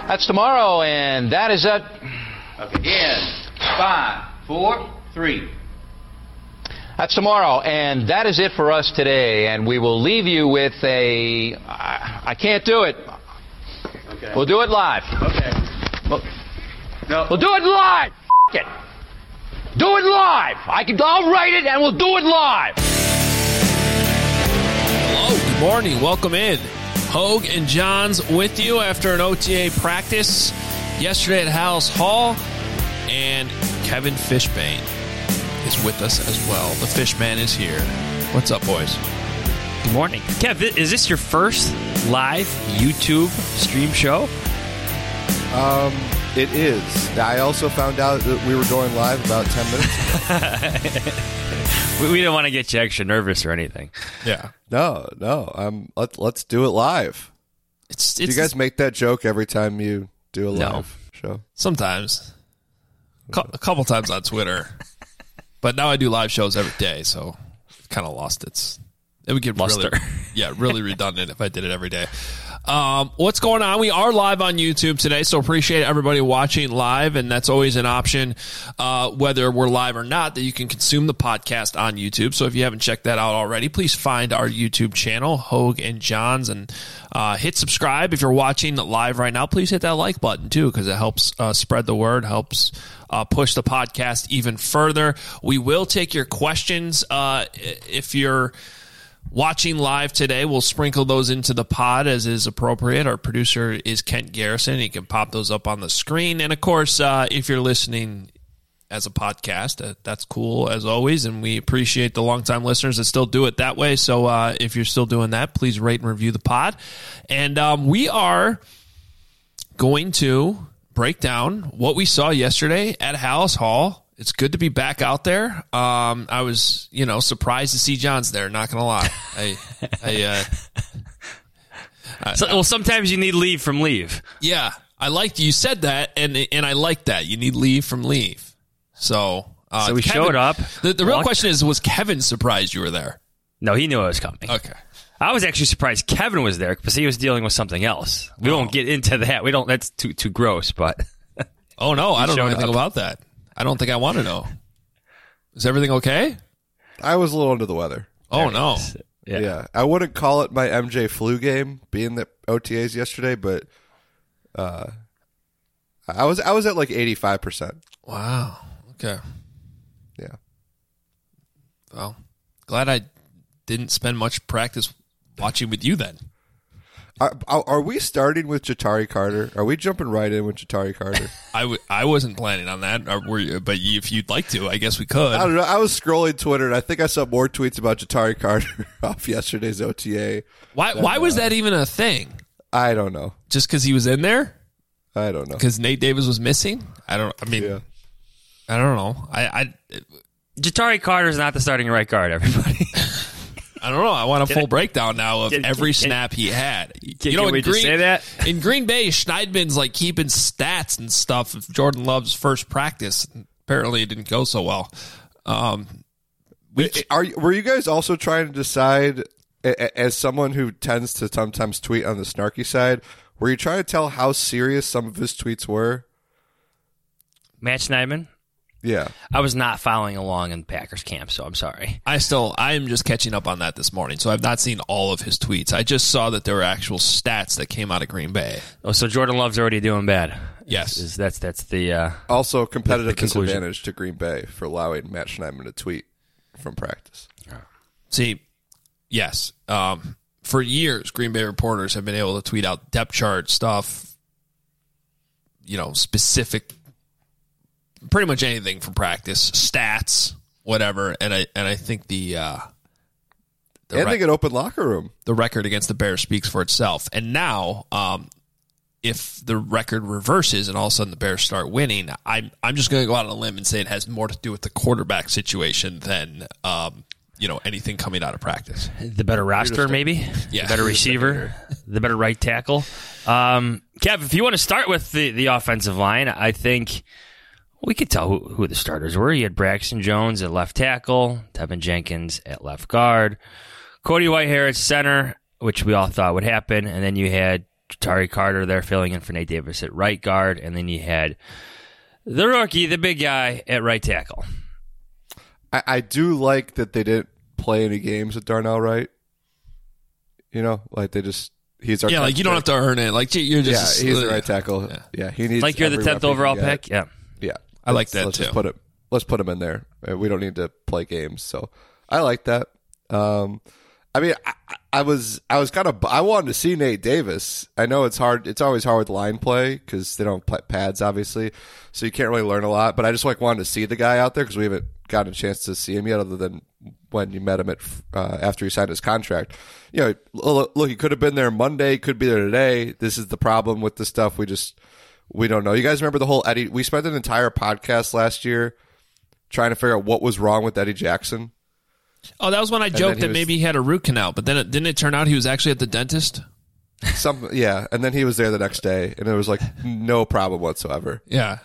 That's tomorrow, and that is it. Okay, again. 5, 4, 3. That's tomorrow, and that is it for us today. And we will leave you with I can't do it. Okay. We'll do it live. Okay. No. We'll do it live. F*** it. Do it live. I'll write it, and we'll do it live. Hello, good morning. Welcome in. Hogue and Johns with you after an OTA practice yesterday at Halas Hall. And Kevin Fishbane is with us as well. The Fishman is here. What's up, boys? Good morning. Kev, is this your first live YouTube stream show? It is. I also found out that we were going live about 10 minutes ago. We didn't want to get you extra nervous or anything. Yeah. No. Let's do it live. Do you guys make that joke every time you do a live show? Sometimes. A couple times on Twitter. But now I do live shows every day, so I've kind of lost it. It would get Luster. really redundant if I did it every day. What's going on? We are live on YouTube today, so appreciate everybody watching live, and that's always an option, whether we're live or not, that you can consume the podcast on YouTube. So if you haven't checked that out already, please find our YouTube channel, Hogue and Johns, and hit subscribe. If you're watching live right now, please hit that like button too, because it helps spread the word, helps push the podcast even further. We will take your questions if you're watching live today. We'll sprinkle those into the pod as is appropriate. Our producer is Kent Garrison. He can pop those up on the screen. And, of course, if you're listening as a podcast, that's cool as always. And we appreciate the longtime listeners that still do it that way. So if you're still doing that, please rate and review the pod. And we are going to break down what we saw yesterday at Halas Hall. It's good to be back out there. I was, surprised to see Johns there. Not gonna lie. Well, sometimes you need leave from leave. Yeah, I liked you said that, and I like that. You need leave from leave. So we showed up. The real question is, was Kevin surprised you were there? No, he knew I was coming. Okay. I was actually surprised Kevin was there because he was dealing with something else. We won't get into that. We don't. That's too gross. But oh no, I don't know anything about that. I don't think I want to know. Is everything okay? I was a little under the weather. Oh, no. Yeah. I wouldn't call it my MJ flu game being the OTAs yesterday, but I was at like 85%. Wow. Okay. Yeah. Well, glad I didn't spend much practice watching with you then. Are we starting with Ja'Tari Carter? Are we jumping right in with Ja'Tari Carter? I wasn't planning on that, but if you'd like to, I guess we could. I don't know. I was scrolling Twitter, and I think I saw more tweets about Ja'Tari Carter off yesterday's OTA. Why was that even a thing? I don't know. Just because he was in there? I don't know. Because Nate Davis was missing? I don't know. Ja'Tari Carter's not the starting right guard, everybody. I don't know. I want a full breakdown now of every snap he had. Can we just say that? In Green Bay, Schneidman's like keeping stats and stuff of Jordan Love's first practice. Apparently, it didn't go so well. Were you guys also trying to decide, as someone who tends to sometimes tweet on the snarky side, were you trying to tell how serious some of his tweets were? Matt Schneidman? Yeah. I was not following along in Packers camp, so I'm sorry. I am just catching up on that this morning, so I've not seen all of his tweets. I just saw that there were actual stats that came out of Green Bay. Oh, so Jordan Love's already doing bad. Yes. That's the also competitive the conclusion. disadvantage to Green Bay for allowing Matt Schneidman to tweet from practice. See, yes. For years, Green Bay reporters have been able to tweet out depth chart stuff, specific, pretty much anything from practice, stats, whatever. And I think they get open locker room. The record against the Bears speaks for itself. And now, if the record reverses and all of a sudden the Bears start winning, I'm just going to go out on a limb and say it has more to do with the quarterback situation than anything coming out of practice. The better roster, maybe. Yeah. The better receiver, the better right tackle. Kev, if you want to start with the offensive line, I think we could tell who the starters were. You had Braxton Jones at left tackle, Tevin Jenkins at left guard, Cody Whitehair at center, which we all thought would happen, and then you had Ja'Tyre Carter there filling in for Nate Davis at right guard, and then you had the rookie, the big guy, at right tackle. I do like that they didn't play any games with Darnell Wright. You know, like he's our like you don't have to earn it. Like you're just he's the right tackle. Yeah, he needs like you're the 10th overall pick. Yeah, I like that let's too. Just let's put him in there. We don't need to play games, so I like that. I mean, I was kind of I wanted to see Nate Davis. I know it's hard. It's always hard with line play because they don't play pads, obviously, so you can't really learn a lot. But I just wanted to see the guy out there because we haven't gotten a chance to see him yet, other than when you met him at after he signed his contract. You know, look, he could have been there Monday, could be there today. This is the problem with the stuff. We don't know. You guys remember the whole Eddie? We spent an entire podcast last year trying to figure out what was wrong with Eddie Jackson. Oh, that was when I joked that maybe he had a root canal, but then didn't it turn out he was actually at the dentist? And then he was there the next day, and it was like no problem whatsoever. Yeah.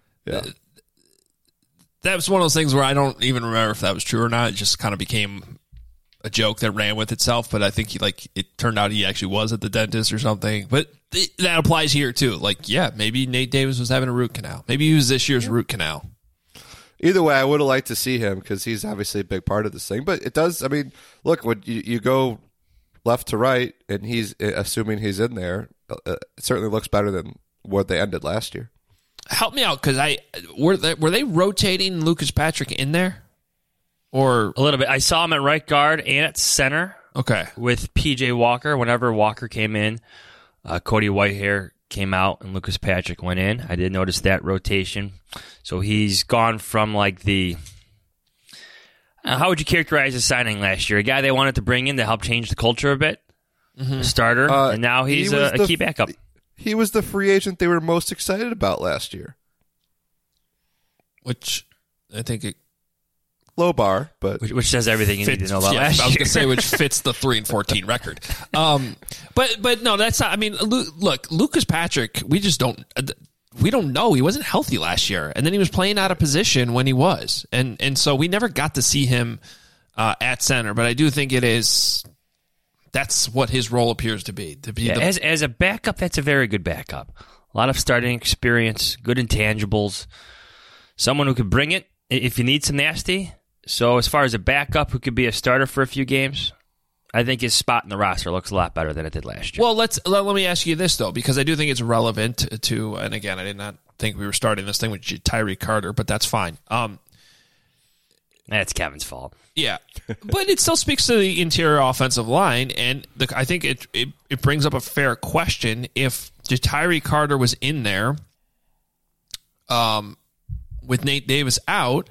That was one of those things where I don't even remember if that was true or not. It just kind of became a joke that ran with itself, but I think it turned out he actually was at the dentist or something. But that applies here too. Like, yeah, maybe Nate Davis was having a root canal. Maybe he was this year's root canal. Either way, I would have liked to see him because he's obviously a big part of this thing. But it does, I mean, look, when you go left to right and he's assuming he's in there, it certainly looks better than what they ended last year. Help me out, because were they rotating Lucas Patrick in there? Or a little bit. I saw him at right guard and at center. Okay. With PJ Walker. Whenever Walker came in, Cody Whitehair came out and Lucas Patrick went in. I did notice that rotation. So he's gone from like the... how would you characterize his signing last year? A guy they wanted to bring in to help change the culture a bit? A starter. And now he's a key backup. He was the free agent they were most excited about last year. Which I think it... Low bar, but... Which says everything you need to know about last year. I was going to say, which fits the 3-14 record. But no, that's not... I mean, look, Lucas Patrick, we don't know. He wasn't healthy last year. And then he was playing out of position when he was. And so we never got to see him at center. But I do think it is... That's what his role appears to be. As a backup, that's a very good backup. A lot of starting experience, good intangibles. Someone who could bring it if you need some nasty. So as far as a backup who could be a starter for a few games, I think his spot in the roster looks a lot better than it did last year. Well, let me ask you this, though, because I do think it's relevant to, and again, I did not think we were starting this thing with Ja'Tyre Carter, but that's fine. That's Kevin's fault. Yeah, but it still speaks to the interior offensive line, and I think it brings up a fair question. If Ja'Tyre Carter was in there with Nate Davis out,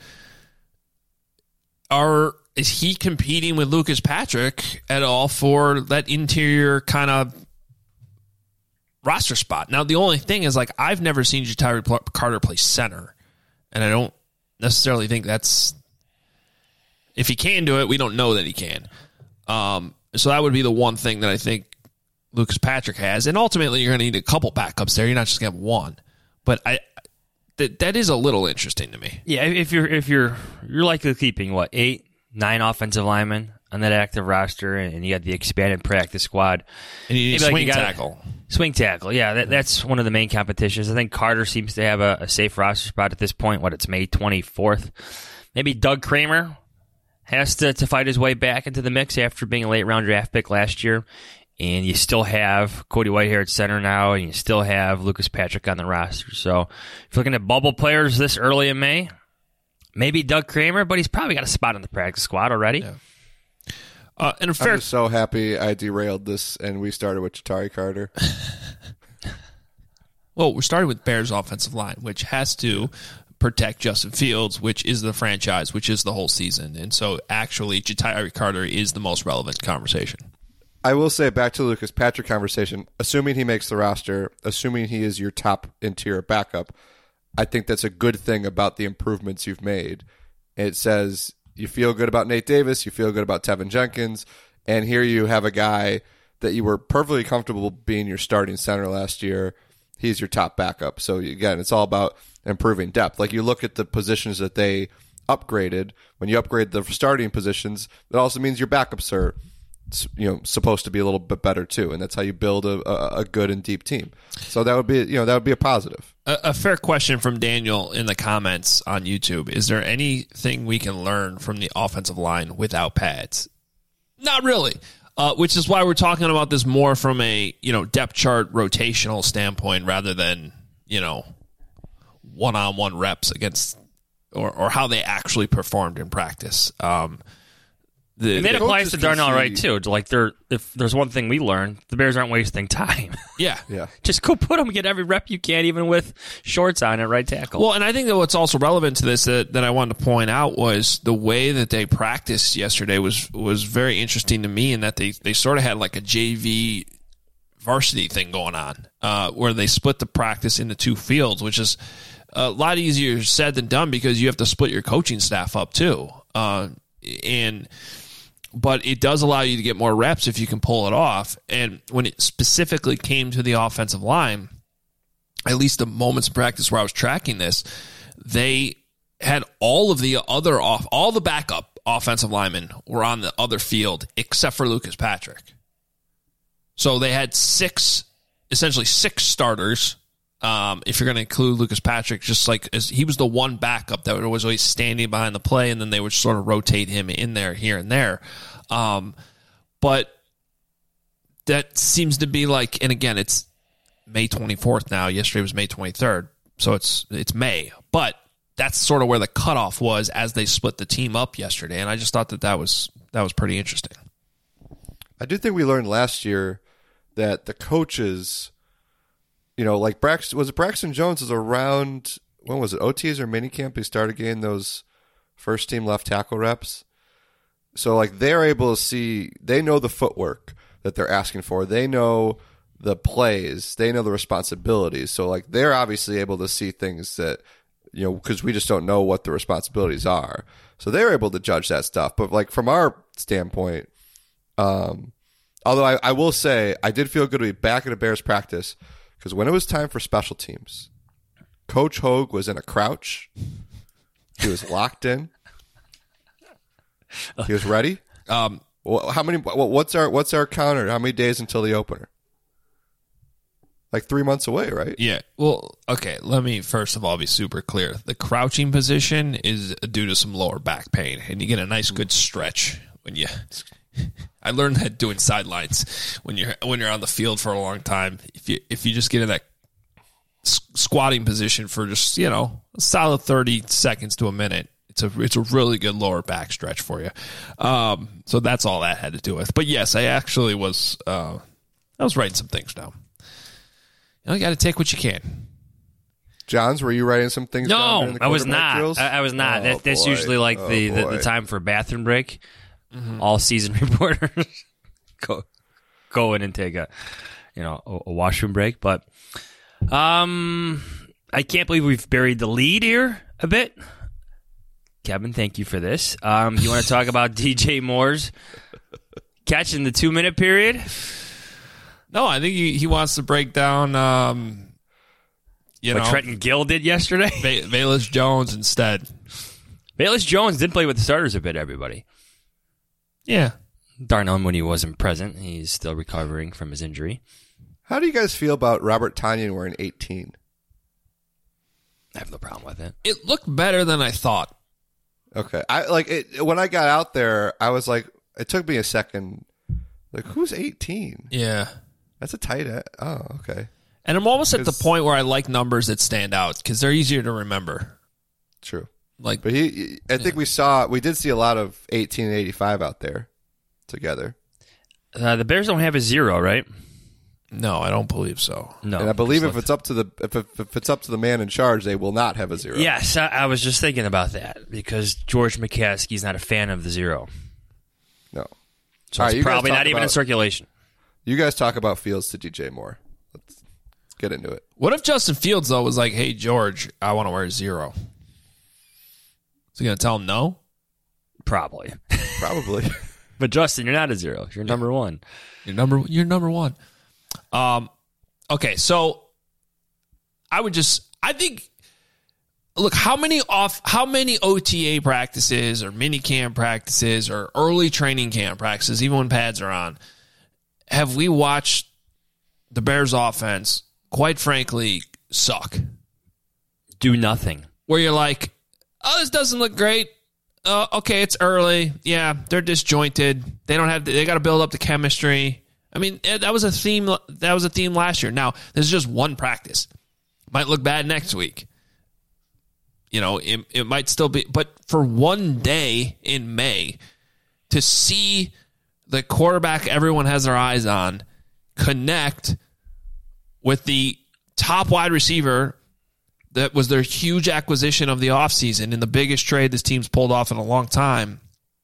is he competing with Lucas Patrick at all for that interior kind of roster spot? Now, the only thing is, like, I've never seen Ja'Tyre Carter play center, and I don't necessarily think that's... If he can do it, we don't know that he can. So that would be the one thing that I think Lucas Patrick has. And ultimately, you're going to need a couple backups there. You're not just going to have one. But that is a little interesting to me. Yeah, if you're likely keeping, 8, 9 offensive linemen on that active roster, and you got the expanded practice squad. And you need swing tackle. Swing tackle, yeah. That's one of the main competitions. I think Carter seems to have a safe roster spot at this point. It's May 24th. Maybe Doug Kramer has to fight his way back into the mix after being a late-round draft pick last year. And you still have Cody Whitehair at center now, and you still have Lucas Patrick on the roster. So if you're looking at bubble players this early in May, maybe Doug Kramer, but he's probably got a spot on the practice squad already. Yeah. I'm just so happy I derailed this, and we started with Ja'Tyre Carter. Well, we're starting with Bears' offensive line, which has to protect Justin Fields, which is the franchise, which is the whole season. And so actually Ja'Tyre Carter is the most relevant conversation. I will say, back to the Lucas Patrick conversation, assuming he makes the roster, assuming he is your top interior backup, I think that's a good thing about the improvements you've made. It says you feel good about Nate Davis, you feel good about Tevin Jenkins, and here you have a guy that you were perfectly comfortable being your starting center last year. He's your top backup. So again, it's all about improving depth. Like, you look at the positions that they upgraded. When you upgrade the starting positions, it also means your backups are supposed to be a little bit better too, and that's how you build a good and deep team. So that would be a positive. A fair question from Daniel in the comments on YouTube. Is there anything we can learn from the offensive line without pads? Not really. Which is why we're talking about this more from a depth chart rotational standpoint rather than one-on-one reps against or how they actually performed in practice. And that applies to Darnell Wright too. Like if there's one thing we learned, the Bears aren't wasting time. Yeah. Just go put them, get every rep you can, even with shorts on at right tackle. Well, and I think that what's also relevant to this that I wanted to point out was the way that they practiced yesterday was very interesting to me, in that they sort of had like a JV varsity thing going on, where they split the practice into two fields, which is a lot easier said than done because you have to split your coaching staff up too. But it does allow you to get more reps if you can pull it off. And when it specifically came to the offensive line, at least the moments of practice where I was tracking this, they had all the backup offensive linemen were on the other field except for Lucas Patrick. So they had essentially six starters. If you're going to include Lucas Patrick, just like as he was the one backup that was always standing behind the play, and then they would sort of rotate him in there, here and there. But that seems to be like, and again, it's May 24th now. Yesterday was May 23rd, so it's May. But that's sort of where the cutoff was as they split the team up yesterday, and I just thought that was pretty interesting. I do think we learned last year that the coaches, like Braxton Jones is around, when was it, OTs or minicamp? He started getting those first team left tackle reps. So like they're able to see, they know the footwork that they're asking for. They know the plays. They know the responsibilities. So like they're obviously able to see things that, because we just don't know what the responsibilities are. So they're able to judge that stuff. But like from our standpoint, although I will say I did feel good to be back at a Bears practice, because when it was time for special teams, Coach Hogue was in a crouch. He was locked in. He was ready. What's our counter? How many days until the opener? Like 3 months away, right? Yeah. Well, okay. Let me first of all be super clear. The crouching position is due to some lower back pain, and you get a nice good stretch when you. I learned that doing sidelines when you're on the field for a long time. If you just get in that squatting position for just a solid 30 seconds to a minute, it's a really good lower back stretch for you. So that's all that had to do with. But yes, I actually was I was writing some things down. You got to take what you can. Johns, were you writing some things down? No, I was not. I was not. That's usually like the time for bathroom break. Mm-hmm. All season reporters go in and take a washroom break. But I can't believe we've buried the lead here a bit. Kevin, thank you for this. You want to talk about DJ Moore's catch in the 2-minute period? No, I think he wants to break down what Trenton Gill did yesterday. Velus Jones instead. Velus Jones did play with the starters a bit, everybody. Yeah. Darnell Mooney wasn't present. He's still recovering from his injury. How do you guys feel about Robert Tonyan wearing 18? I have no problem with it. It looked better than I thought. Okay. When I got out there, I was like, it took me a second. Like, who's 18? Yeah. That's a tight end. Oh, okay. And I'm almost at the point where I like numbers that stand out because they're easier to remember. True. But I think we did see a lot of 18 and 85 out there together. The Bears don't have a 0, right? No, I don't believe so. No, and I believe if it's up to the man in charge, they will not have a 0. Yes, I was just thinking about that because George McCaskey's not a fan of the 0. No, so it's probably not even in circulation. You guys talk about Fields to DJ Moore. Let's get into it. What if Justin Fields though was like, "Hey George, I want to wear a 0." Is he gonna tell him no? Probably. But Justin, you're not a 0. You're number 1. You're number 1. Okay, so I think look, how many OTA practices or mini camp practices or early training camp practices, even when pads are on, have we watched the Bears offense, quite frankly, suck? Do nothing. Where you're like, oh, this doesn't look great. Okay, it's early. Yeah, they're disjointed. They got to build up the chemistry. I mean, that was a theme. That was a theme last year. Now, this is just one practice. Might look bad next week. You know, it might still be. But for one day in May, to see the quarterback everyone has their eyes on connect with the top wide receiver that was their huge acquisition of the offseason and the biggest trade this team's pulled off in a long time,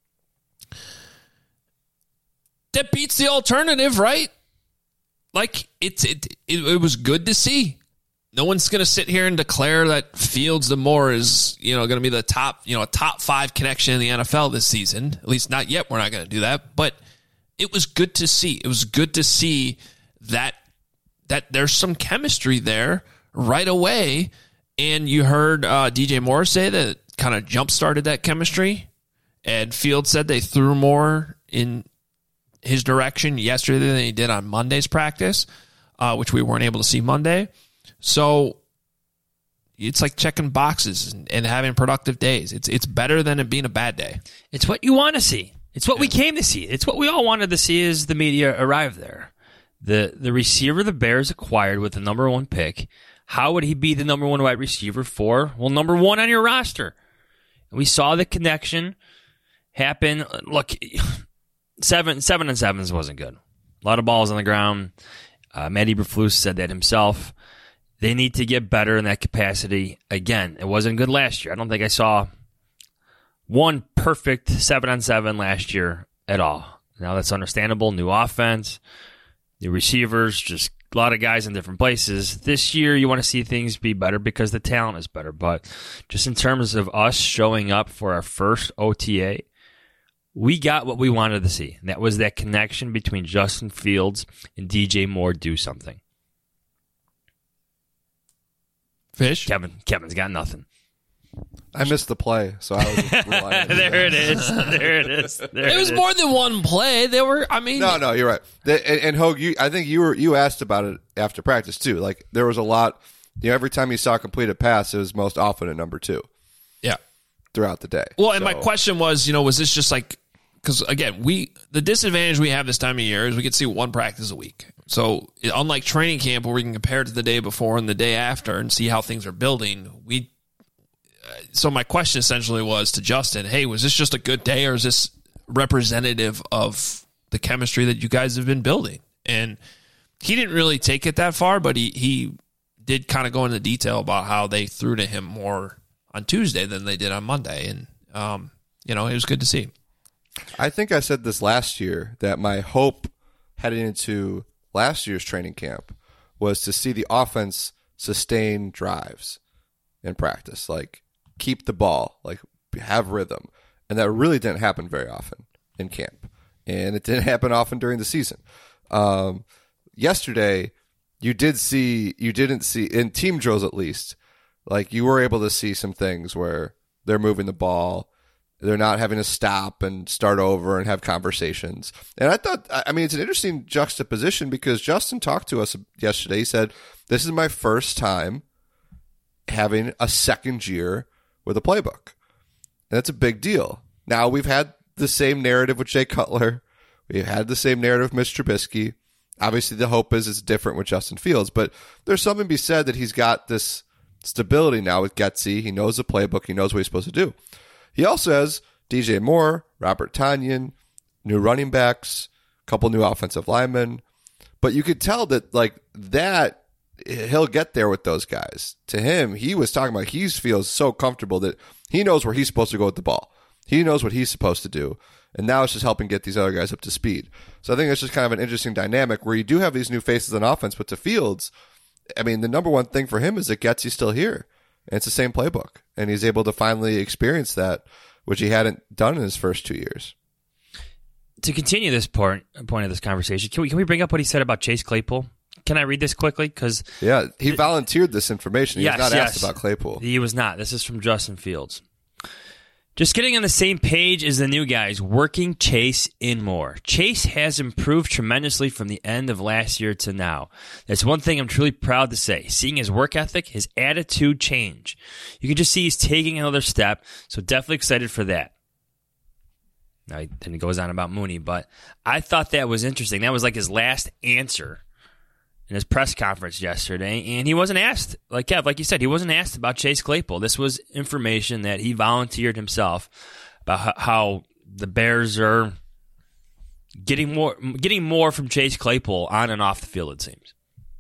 that beats the alternative, right? Like, it was good to see. No one's going to sit here and declare that Fields the Moore is, going to be the top, a top 5 connection in the NFL this season. At least not yet. We're not going to do that. But it was good to see. It was good to see that there's some chemistry there right away. And you heard DJ Moore say that kind of jump-started that chemistry. And Fields said they threw more in his direction yesterday than he did on Monday's practice, which we weren't able to see Monday. So it's like checking boxes and having productive days. It's better than it being a bad day. It's what you want to see. It's what we came to see. It's what we all wanted to see as the media arrived there. The receiver the Bears acquired with the number 1 pick, how would he be the number 1 wide receiver for? Well, number 1 on your roster. And we saw the connection happen. Look, 7-on-7s wasn't good. A lot of balls on the ground. Matt Eberflus said that himself. They need to get better in that capacity. Again, it wasn't good last year. I don't think I saw one perfect 7-on-7 last year at all. Now that's understandable. New offense, new receivers, just a lot of guys in different places. This year you want to see things be better because the talent is better. But just in terms of us showing up for our first OTA, we got what we wanted to see. And that was that connection between Justin Fields and DJ Moore do something. Fish? Kevin's got nothing. I missed the play, so I was relying on There it is. There it is. It was more than one play. There were, No, you're right. And Hogue, I think you asked about it after practice too. Like there was a lot. Every time you saw a completed pass, it was most often at number 2. Yeah. Throughout the day. Well, and my question was, was this just like, because again, the disadvantage we have this time of year is we can see one practice a week. So unlike training camp where we can compare it to the day before and the day after and see how things are building, so my question essentially was to Justin, hey, was this just a good day or is this representative of the chemistry that you guys have been building? And he didn't really take it that far, but he did kind of go into detail about how they threw to him more on Tuesday than they did on Monday. And, it was good to see. I think I said this last year that my hope heading into last year's training camp was to see the offense sustain drives in practice, like keep the ball, like have rhythm. And that really didn't happen very often in camp. And it didn't happen often during the season. Yesterday, you didn't see, in team drills at least, like you were able to see some things where they're moving the ball. They're not having to stop and start over and have conversations. And I thought, it's an interesting juxtaposition because Justin talked to us yesterday. He said, this is my first time having a second year with a playbook. And that's a big deal. Now, we've had the same narrative with Jay Cutler. We've had the same narrative with Mitch Trubisky. Obviously, the hope is it's different with Justin Fields. But there's something to be said that he's got this stability now with Getsy. He knows the playbook. He knows what he's supposed to do. He also has DJ Moore, Robert Tonyan, new running backs, a couple new offensive linemen. But you could tell that he'll get there with those guys. To him, he was talking about he feels so comfortable that he knows where he's supposed to go with the ball. He knows what he's supposed to do. And now it's just helping get these other guys up to speed. So I think it's just kind of an interesting dynamic where you do have these new faces on offense, but to Fields, the number one thing for him is that Getsy's still here. And it's the same playbook. And he's able to finally experience that, which he hadn't done in his first 2 years. To continue this point of this conversation, can we bring up what he said about Chase Claypool? Can I read this quickly? Because Yeah, he volunteered this information. He was not asked about Claypool. He was not. This is from Justin Fields. Just getting on the same page as the new guys, working Chase in more. Chase has improved tremendously from the end of last year to now. That's one thing I'm truly proud to say. Seeing his work ethic, his attitude change. You can just see he's taking another step, so definitely excited for that. Now, then he goes on about Mooney, but I thought that was interesting. That was like his last answer in his press conference yesterday, and he wasn't asked, like Kev, like you said, he wasn't asked about Chase Claypool. This was information that he volunteered himself about how the Bears are getting more from Chase Claypool on and off the field, it seems.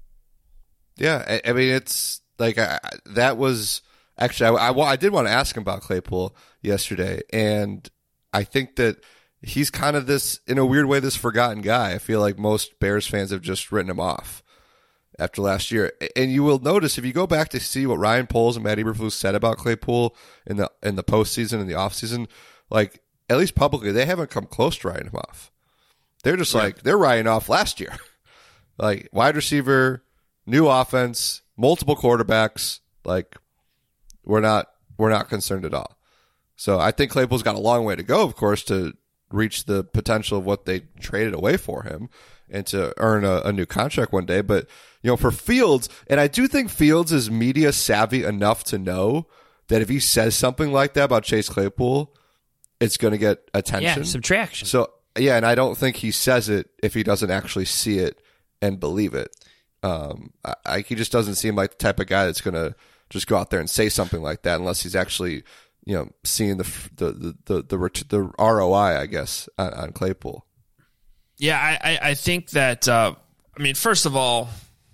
Yeah, I mean, it's like that was actually I did want to ask him about Claypool yesterday, and I think that he's kind of this, in a weird way, this forgotten guy. I feel like most Bears fans have just written him off after last year. And you will notice, if you go back to see what Ryan Poles and Matt Eberflus said about Claypool in the postseason and the offseason, like, at least publicly, they haven't come close to writing him off. They're just like, they're writing off last year. Like, wide receiver, new offense, multiple quarterbacks, like, we're not concerned at all. So I think Claypool's got a long way to go, of course, to reach the potential of what they traded away for him and to earn a new contract one day. But, you know, for Fields, and I do think Fields is media savvy enough to know that if he says something like that about Chase Claypool, it's going to get attention. Yeah, some traction. So, yeah, and I don't think he says it if he doesn't actually see it and believe it. He just doesn't seem like the type of guy that's going to just go out there and say something like that unless he's actually, you know, seeing the ROI, I guess, on Claypool. Yeah, I think that. I mean, first of all,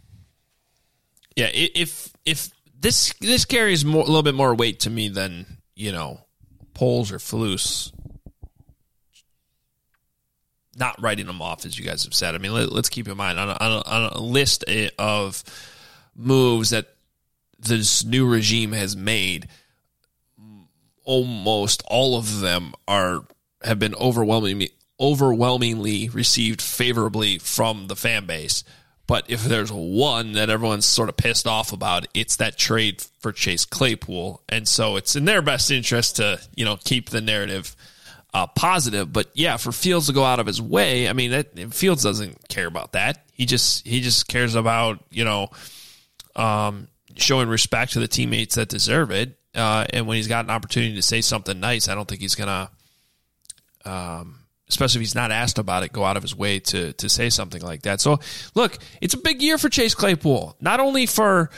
yeah, if this carries a little bit more weight to me than, you know, Poles or Flus not writing them off, as you guys have said. I mean, let's keep in mind on a list of moves that this new regime has made, almost all of them have been overwhelmingly received favorably from the fan base. But if there's one that everyone's sort of pissed off about, it's that trade for Chase Claypool. And so it's in their best interest to, you know, keep the narrative positive. But yeah, for Fields to go out of his way, I mean, Fields doesn't care about that. He just cares about, you know, showing respect to the teammates that deserve it. And when he's got an opportunity to say something nice, I don't think he's going to, especially if he's not asked about it, go out of his way to say something like that. So, look, it's a big year for Chase Claypool, not only for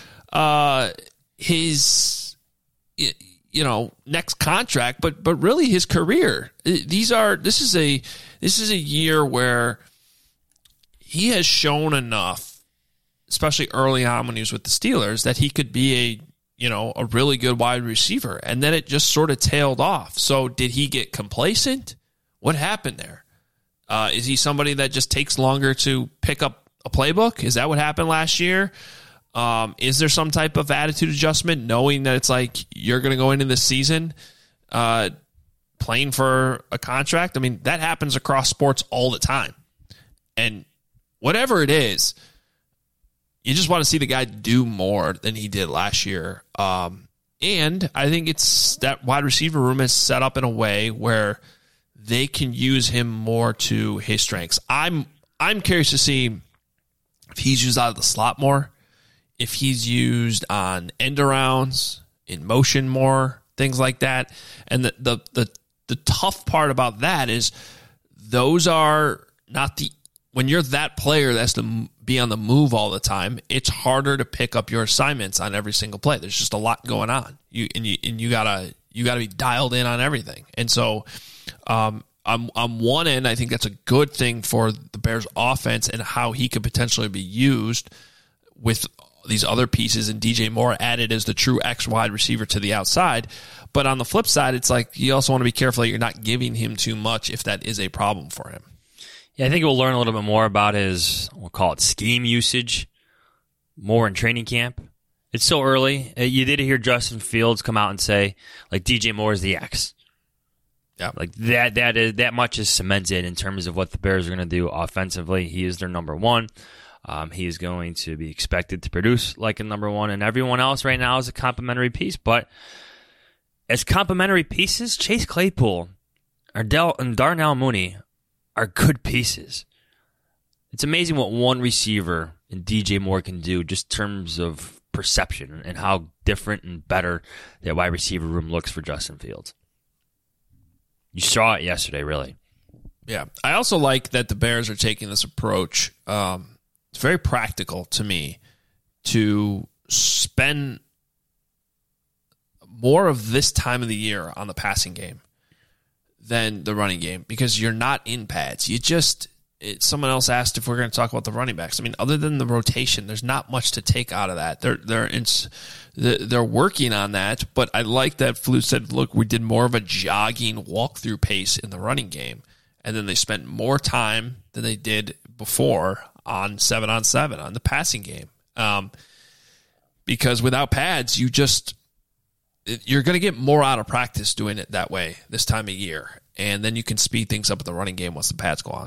his, you know, next contract, but really his career. This is a year where he has shown enough, especially early on when he was with the Steelers, that he could be a really good wide receiver. And then it just sort of tailed off. So did he get complacent? What happened there? Is he somebody that just takes longer to pick up a playbook? Is that what happened last year? Is there some type of attitude adjustment, knowing that it's like you're going to go into this season playing for a contract? I mean, that happens across sports all the time. And whatever it is, you just want to see the guy do more than he did last year. And I think it's that wide receiver room is set up in a way where they can use him more to his strengths. I'm curious to see if he's used out of the slot more, if he's used on end arounds, in motion more, things like that. And the tough part about that is those are not when you're that player that has to be on the move all the time, it's harder to pick up your assignments on every single play. There's just a lot going on. You gotta be dialed in on everything. And so on one end, I think that's a good thing for the Bears offense and how he could potentially be used with these other pieces and DJ Moore added as the true X wide receiver to the outside. But on the flip side, it's like you also want to be careful that you're not giving him too much if that is a problem for him. Yeah, I think we'll learn a little bit more about his, we'll call it scheme usage, more in training camp. It's so early. You did hear Justin Fields come out and say, like, DJ Moore is the X. Yeah, like that much is cemented in terms of what the Bears are going to do offensively. He is their number one. He is going to be expected to produce like a number one, and everyone else right now is a complimentary piece. But as complimentary pieces, Chase Claypool and Darnell Mooney are good pieces. It's amazing what one receiver and DJ Moore can do just in terms of perception and how different and better that wide receiver room looks for Justin Fields. You saw it yesterday, really. Yeah. I also like that the Bears are taking this approach. It's very practical to me to spend more of this time of the year on the passing game than the running game because you're not in pads. Someone else asked if we're going to talk about the running backs. I mean, other than the rotation, there's not much to take out of that. They're working on that, but I like that Flute said, look, we did more of a jogging walk-through pace in the running game, and then they spent more time than they did before on 7-on-7 on the passing game. Because without pads, you're going to get more out of practice doing it that way this time of year, and then you can speed things up in the running game once the pads go on.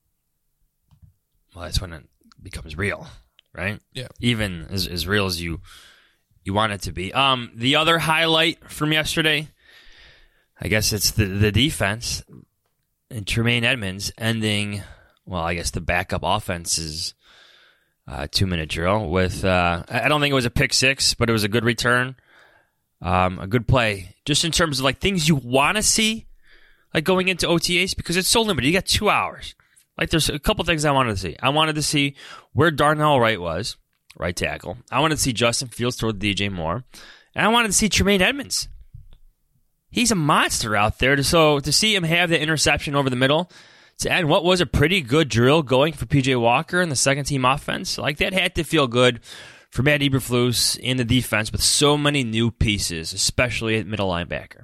Well, that's when it becomes real, right? Yeah. Even as real as you want it to be. The other highlight from yesterday, I guess it's the defense and Tremaine Edmonds ending, well, I guess the backup offense's 2-minute drill with, I don't think it was a pick six, but it was a good return, a good play. Just in terms of like things you want to see, like going into OTAs, because it's so limited. You got 2 hours. Like, there's a couple things I wanted to see. I wanted to see where Darnell Wright was, right tackle. I wanted to see Justin Fields throw to DJ Moore. And I wanted to see Tremaine Edmonds. He's a monster out there. So to see him have the interception over the middle, to end what was a pretty good drill going for P.J. Walker and the second-team offense, like that had to feel good for Matt Eberflus in the defense with so many new pieces, especially at middle linebacker.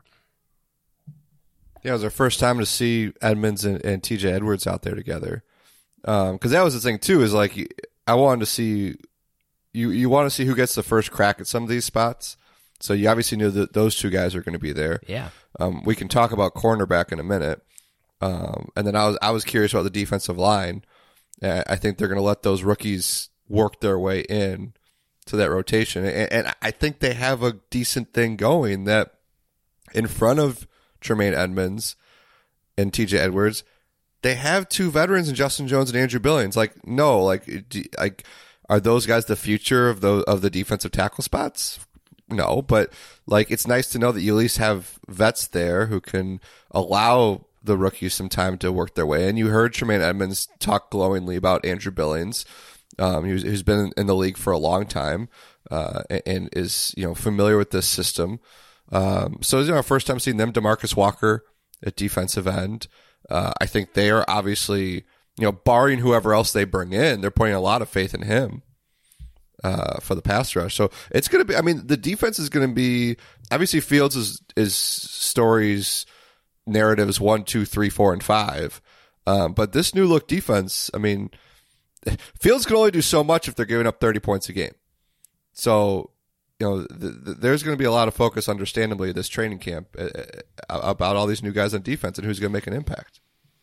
Yeah, it was our first time to see Edmonds and T.J. Edwards out there together. Because that was the thing, too, is like I wanted to see you want to see who gets the first crack at some of these spots. So you obviously knew that those two guys are going to be there. Yeah. We can talk about cornerback in a minute. And then I was curious about the defensive line. I think they're going to let those rookies work their way in to that rotation. And I think they have a decent thing going that in front of Tremaine Edmonds and TJ Edwards, they have two veterans in Justin Jones and Andrew Billings. Like, no, like are those guys the future of the defensive tackle spots? No, but like it's nice to know that you at least have vets there who can allow the rookies some time to work their way. And you heard Tremaine Edmonds talk glowingly about Andrew Billings, who's been in the league for a long time and is familiar with this system. So it's our first time seeing them. DeMarcus Walker at defensive end. I think they are obviously, barring whoever else they bring in, they're putting a lot of faith in him for the pass rush. So it's going to be, the defense is going to be, obviously Fields is stories, narratives 1, 2, 3, 4, and 5. But this new look defense, Fields can only do so much if they're giving up 30 points a game. So, there's going to be a lot of focus, understandably, this training camp about all these new guys on defense and who's going to make an impact.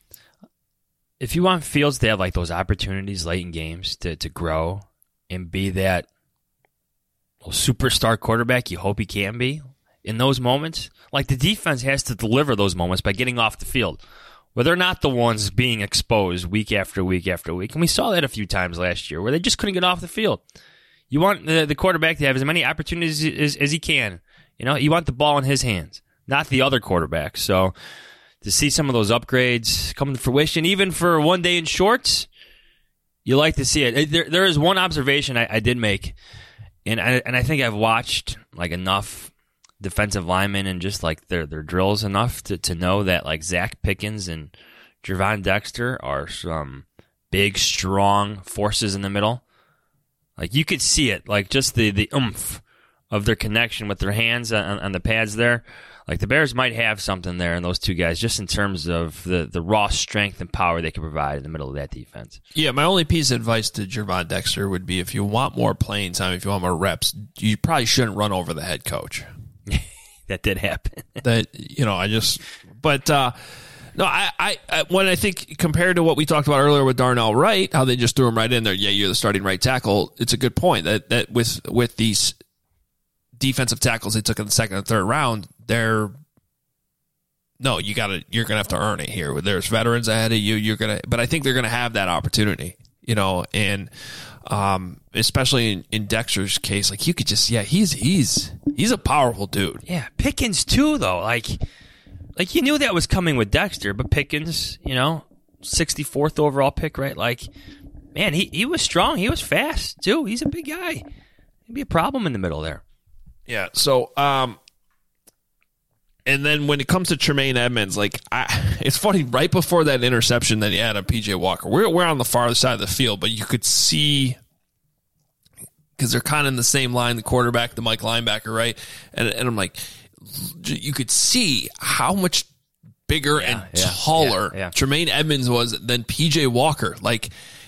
If you want Fields to have like those opportunities late in games to grow and be that superstar quarterback you hope he can be in those moments, like the defense has to deliver those moments by getting off the field, where they're not the ones being exposed week after week after week. And we saw that a few times last year where they just couldn't get off the field. You want the quarterback to have as many opportunities as he can. You want the ball in his hands, not the other quarterback. So to see some of those upgrades come to fruition, even for one day in shorts, you like to see it. There is one observation I did make, and I think I've watched like enough defensive linemen and just like their drills enough to know that like Zach Pickens and Gervon Dexter are some big, strong forces in the middle. Like you could see it, like just the oomph of their connection with their hands on the pads there. Like the Bears might have something there in those two guys, just in terms of the raw strength and power they can provide in the middle of that defense. Yeah, my only piece of advice to Gervon Dexter would be if you want more playing time, if you want more reps, you probably shouldn't run over the head coach. That did happen. No, I when I think compared to what we talked about earlier with Darnell Wright, how they just threw him right in there. Yeah, you're the starting right tackle. It's a good point that with these defensive tackles they took in the second and third round, you're gonna have to earn it here. There's veterans ahead of you. But I think they're gonna have that opportunity, and especially in Dexter's case, like you could just he's a powerful dude. Yeah, Pickens too though, like you knew that was coming with Dexter, but Pickens, 64th overall pick, right? Like, man, he was strong, he was fast too. He's a big guy. He'd be a problem in the middle there. Yeah. So, and then when it comes to Tremaine Edmonds, it's funny. Right before that interception that he had on PJ Walker, we're on the farther side of the field, but you could see because they're kind of in the same line, the quarterback, the Mike linebacker, right? And I'm like, you could see how much bigger and taller Tremaine Edmonds was than PJ Walker. Like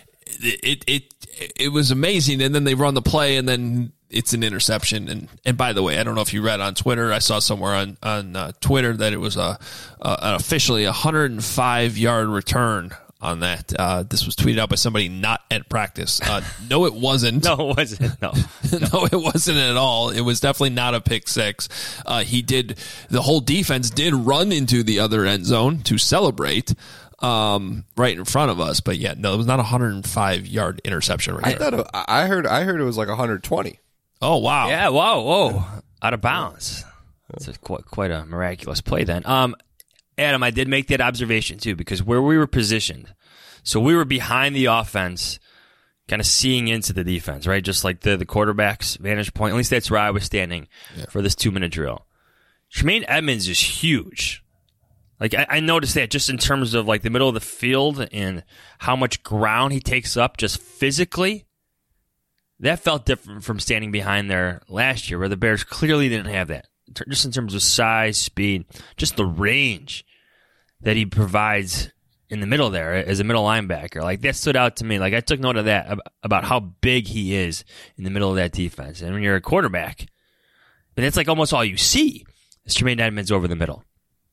it was amazing. And then they run the play, and then it's an interception. And by the way, I don't know if you read on Twitter. I saw somewhere on Twitter that it was an officially 105-yard return on that. This was tweeted out by somebody not at practice. No, it wasn't. No, it wasn't. No, no, it wasn't at all. It was definitely not a pick six. The whole defense did run into the other end zone to celebrate. Right in front of us, but yeah, no, it was not a 105-yard interception. Right I heard it was like 120. Oh wow! Yeah, whoa, out of bounds. That's quite a miraculous play then. Adam, I did make that observation too because where we were positioned, so we were behind the offense, kind of seeing into the defense, right? Just like the quarterback's vantage point. At least that's where I was standing for this 2-minute drill. Tremaine Edmonds is huge. Like I noticed that just in terms of like the middle of the field and how much ground he takes up just physically. That felt different from standing behind there last year where the Bears clearly didn't have that. Just in terms of size, speed, just the range that he provides in the middle there as a middle linebacker. Like that stood out to me. Like I took note of that about how big he is in the middle of that defense. And when you're a quarterback, and that's like almost all you see is Tremaine Edmonds over the middle.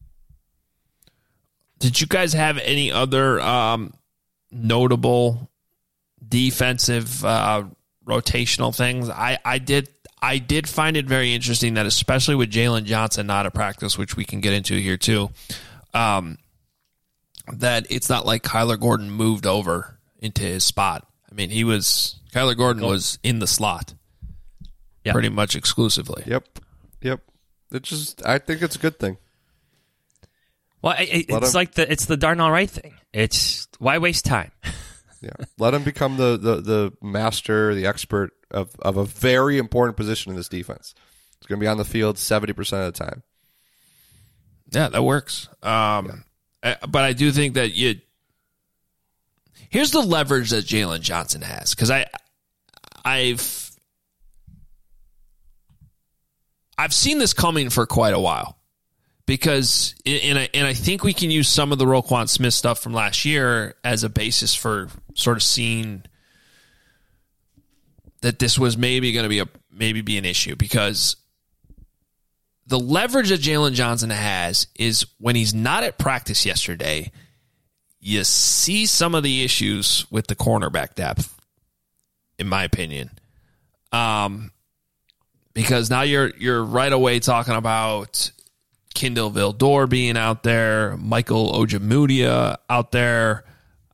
Did you guys have any other notable defensive rotational things? I did find it very interesting that especially with Jalen Johnson not at practice, which we can get into here too, that it's not like Kyler Gordon moved over into his spot. I mean, Kyler Gordon was in the slot pretty much exclusively. Yep. I think it's a good thing. Well, it's the Darnell Wright thing. It's why waste time? Yeah, let him become the master, the expert of a very important position in this defense. He's going to be on the field 70% of the time. Yeah, that works. But I do think that here's the leverage that Jalen Johnson has, because I've seen this coming for quite a while. Because I think we can use some of the Roquan Smith stuff from last year as a basis for sort of seeing that this was maybe going to be an issue, because the leverage that Jalen Johnson has is when he's not at practice yesterday, you see some of the issues with the cornerback depth, in my opinion. Because now you're right away talking about Kindle Vildor being out there, Michael Ojemudia out there,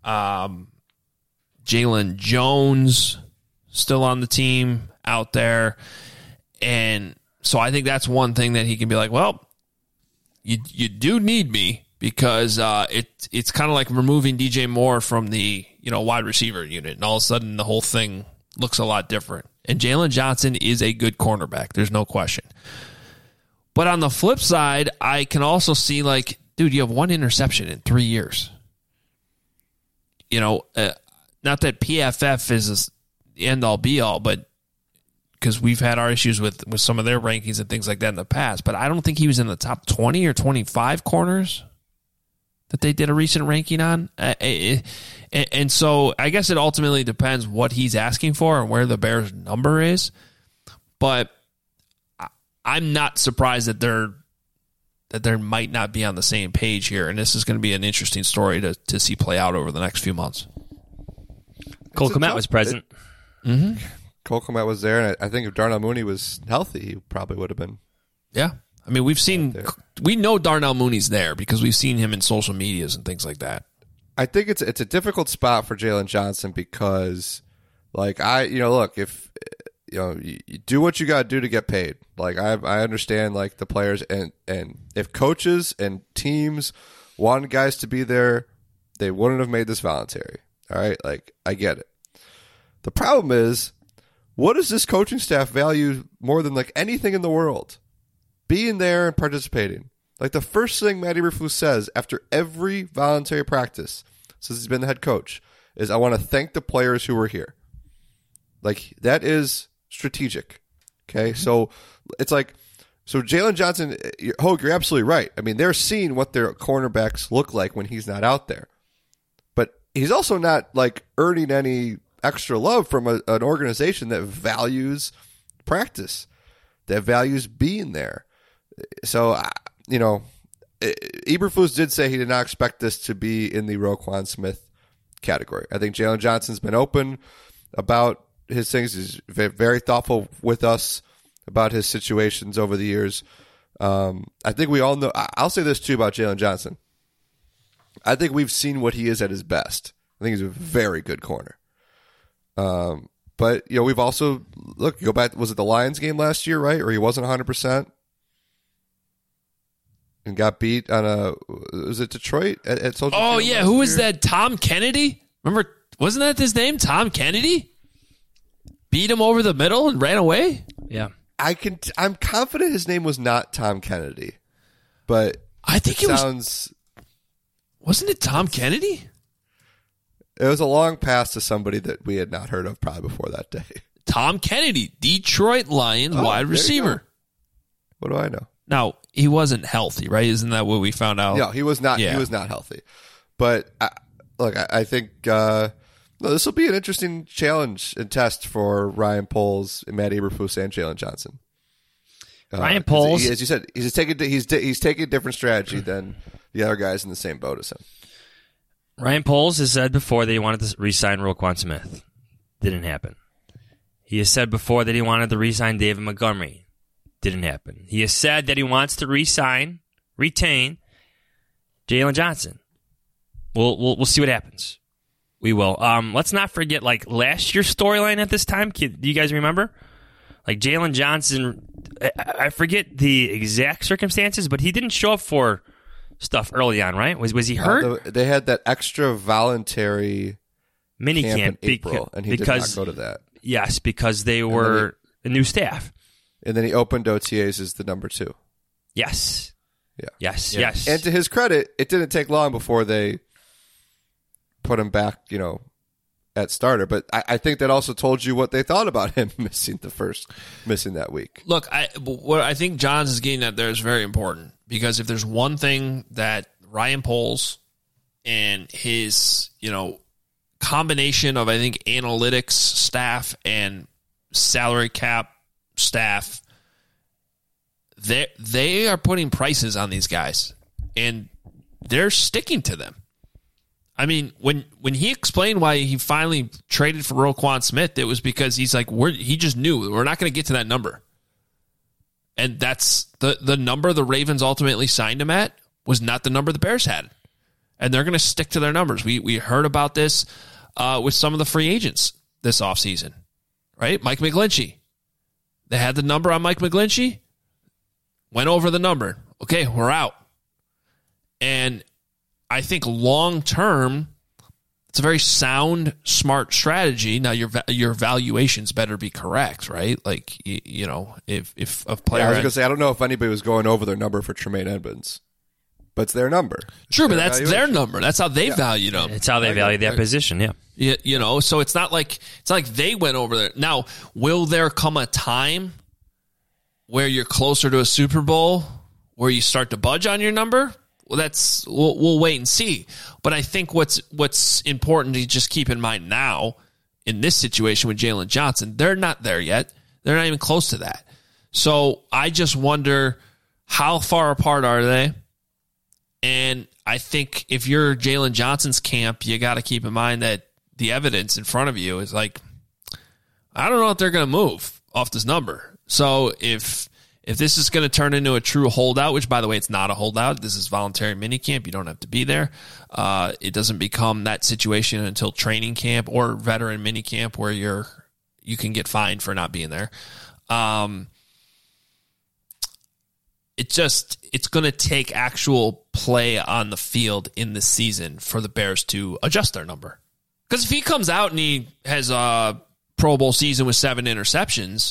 Jalen Jones still on the team out there. And so I think that's one thing that he can be like, well, you do need me, because it's kind of like removing DJ Moore from the wide receiver unit, and all of a sudden the whole thing looks a lot different. And Jalen Johnson is a good cornerback. There's no question. But on the flip side, I can also see, like, dude, you have one interception in 3 years. Not that PFF is the end-all, be-all, but because we've had our issues with some of their rankings and things like that in the past. But I don't think he was in the top 20 or 25 corners that they did a recent ranking on. And so I guess it ultimately depends what he's asking for and where the Bears' number is. But I'm not surprised that they're that there might not be on the same page here, and this is going to be an interesting story to see play out over the next few months. Cole Kmet was present. Cole Kmet was there, and I think if Darnell Mooney was healthy, he probably would have been. Yeah. I mean, we know Darnell Mooney's there because we've seen him in social medias and things like that. I think it's a difficult spot for Jalen Johnson because, like, look, if you do what you got to do to get paid. Like, I understand, like, the players and if coaches and teams wanted guys to be there, they wouldn't have made this voluntary. All right, like, I get it. The problem is, what does this coaching staff value more than, like, anything in the world? Being there and participating. Like, the first thing Matt Eberflus says after every voluntary practice, since he's been the head coach, is I want to thank the players who were here. Like, that is strategic. Okay? So, it's like, so Jalen Johnson, Hogue, you're absolutely right. I mean, they're seeing what their cornerbacks look like when he's not out there. But he's also not, like, earning any extra love from an organization that values practice, that values being there. So, Eberflus did say he did not expect this to be in the Roquan Smith category. I think Jalen Johnson's been open about his things. He's very thoughtful with us about his situations over the years. I think we all know. I'll say this too about Jalen Johnson. I think we've seen what he is at his best. I think he's a very good corner. But we've also go back. Was it the Lions game last year, right? Or he wasn't 100%. And got beat on was it Detroit at Soldier Field? Oh, yeah. Who was that? Tom Kennedy? Remember, wasn't that his name? Tom Kennedy? Beat him over the middle and ran away? Yeah. I'm confident his name was not Tom Kennedy. But I think it sounds. Wasn't it Tom Kennedy? It was a long pass to somebody that we had not heard of probably before that day. Tom Kennedy, Detroit Lions wide receiver. What do I know? Now, he wasn't healthy, right? Isn't that what we found out? No, he was not. Yeah. He was not healthy. But I think this will be an interesting challenge and test for Ryan Poles, Matt Eberflus, and Jalen Johnson. Ryan Poles, as you said, he's taking a different strategy than the other guys in the same boat as him. Ryan Poles has said before that he wanted to re-sign Roquan Smith. Didn't happen. He has said before that he wanted to re-sign David Montgomery. Didn't happen. He has said that he wants to retain Jalen Johnson. We'll see what happens. We will. Let's not forget, like, last year's storyline at this time. Do you guys remember? Like, Jalen Johnson, I forget the exact circumstances, but he didn't show up for stuff early on, right? Was he hurt? They had that extra voluntary mini camp in April, and he did not go to that. Yes, because they were a new staff. And then he opened OTAs as the number 2. Yes. Yeah. Yes. And to his credit, it didn't take long before they put him back, at starter. But I think that also told you what they thought about him missing that week. Look, what I think Johns is getting at there is very important, because if there's one thing that Ryan Poles and his, combination of, I think, analytics staff and salary cap staff, they are putting prices on these guys, and they're sticking to them. I mean, when he explained why he finally traded for Roquan Smith, it was because he's like, he just knew we're not going to get to that number. And that's the number the Ravens ultimately signed him at was not the number the Bears had. And they're going to stick to their numbers. We heard about this with some of the free agents this offseason, right? Mike McGlinchey. They had the number on Mike McGlinchey, went over the number. Okay, we're out. And I think long term, it's a very sound, smart strategy. Now your valuations better be correct, right? Like if a player, I was going to say, I don't know if anybody was going over their number for Tremaine Edmonds, but it's their number. Sure, but that's their number. That's how they valued them. It's how they value that position. Yeah. So it's not like they went over there. Now, will there come a time where you're closer to a Super Bowl where you start to budge on your number? Well, we'll wait and see. But I think what's important to just keep in mind now in this situation with Jalen Johnson, they're not there yet. They're not even close to that. So I just wonder How far apart are they? And I think if you're Jalen Johnson's camp, you got to keep in mind that the evidence in front of you is like, I don't know if they're going to move off this number. So if this is going to turn into a true holdout, which, by the way, it's not a holdout. This is voluntary minicamp. You don't have to be there. It doesn't become that situation until training camp or veteran minicamp where you can get fined for not being there. It's going to take actual play on the field in the season for the Bears to adjust their number. Because if he comes out and he has a Pro Bowl season with 7 interceptions,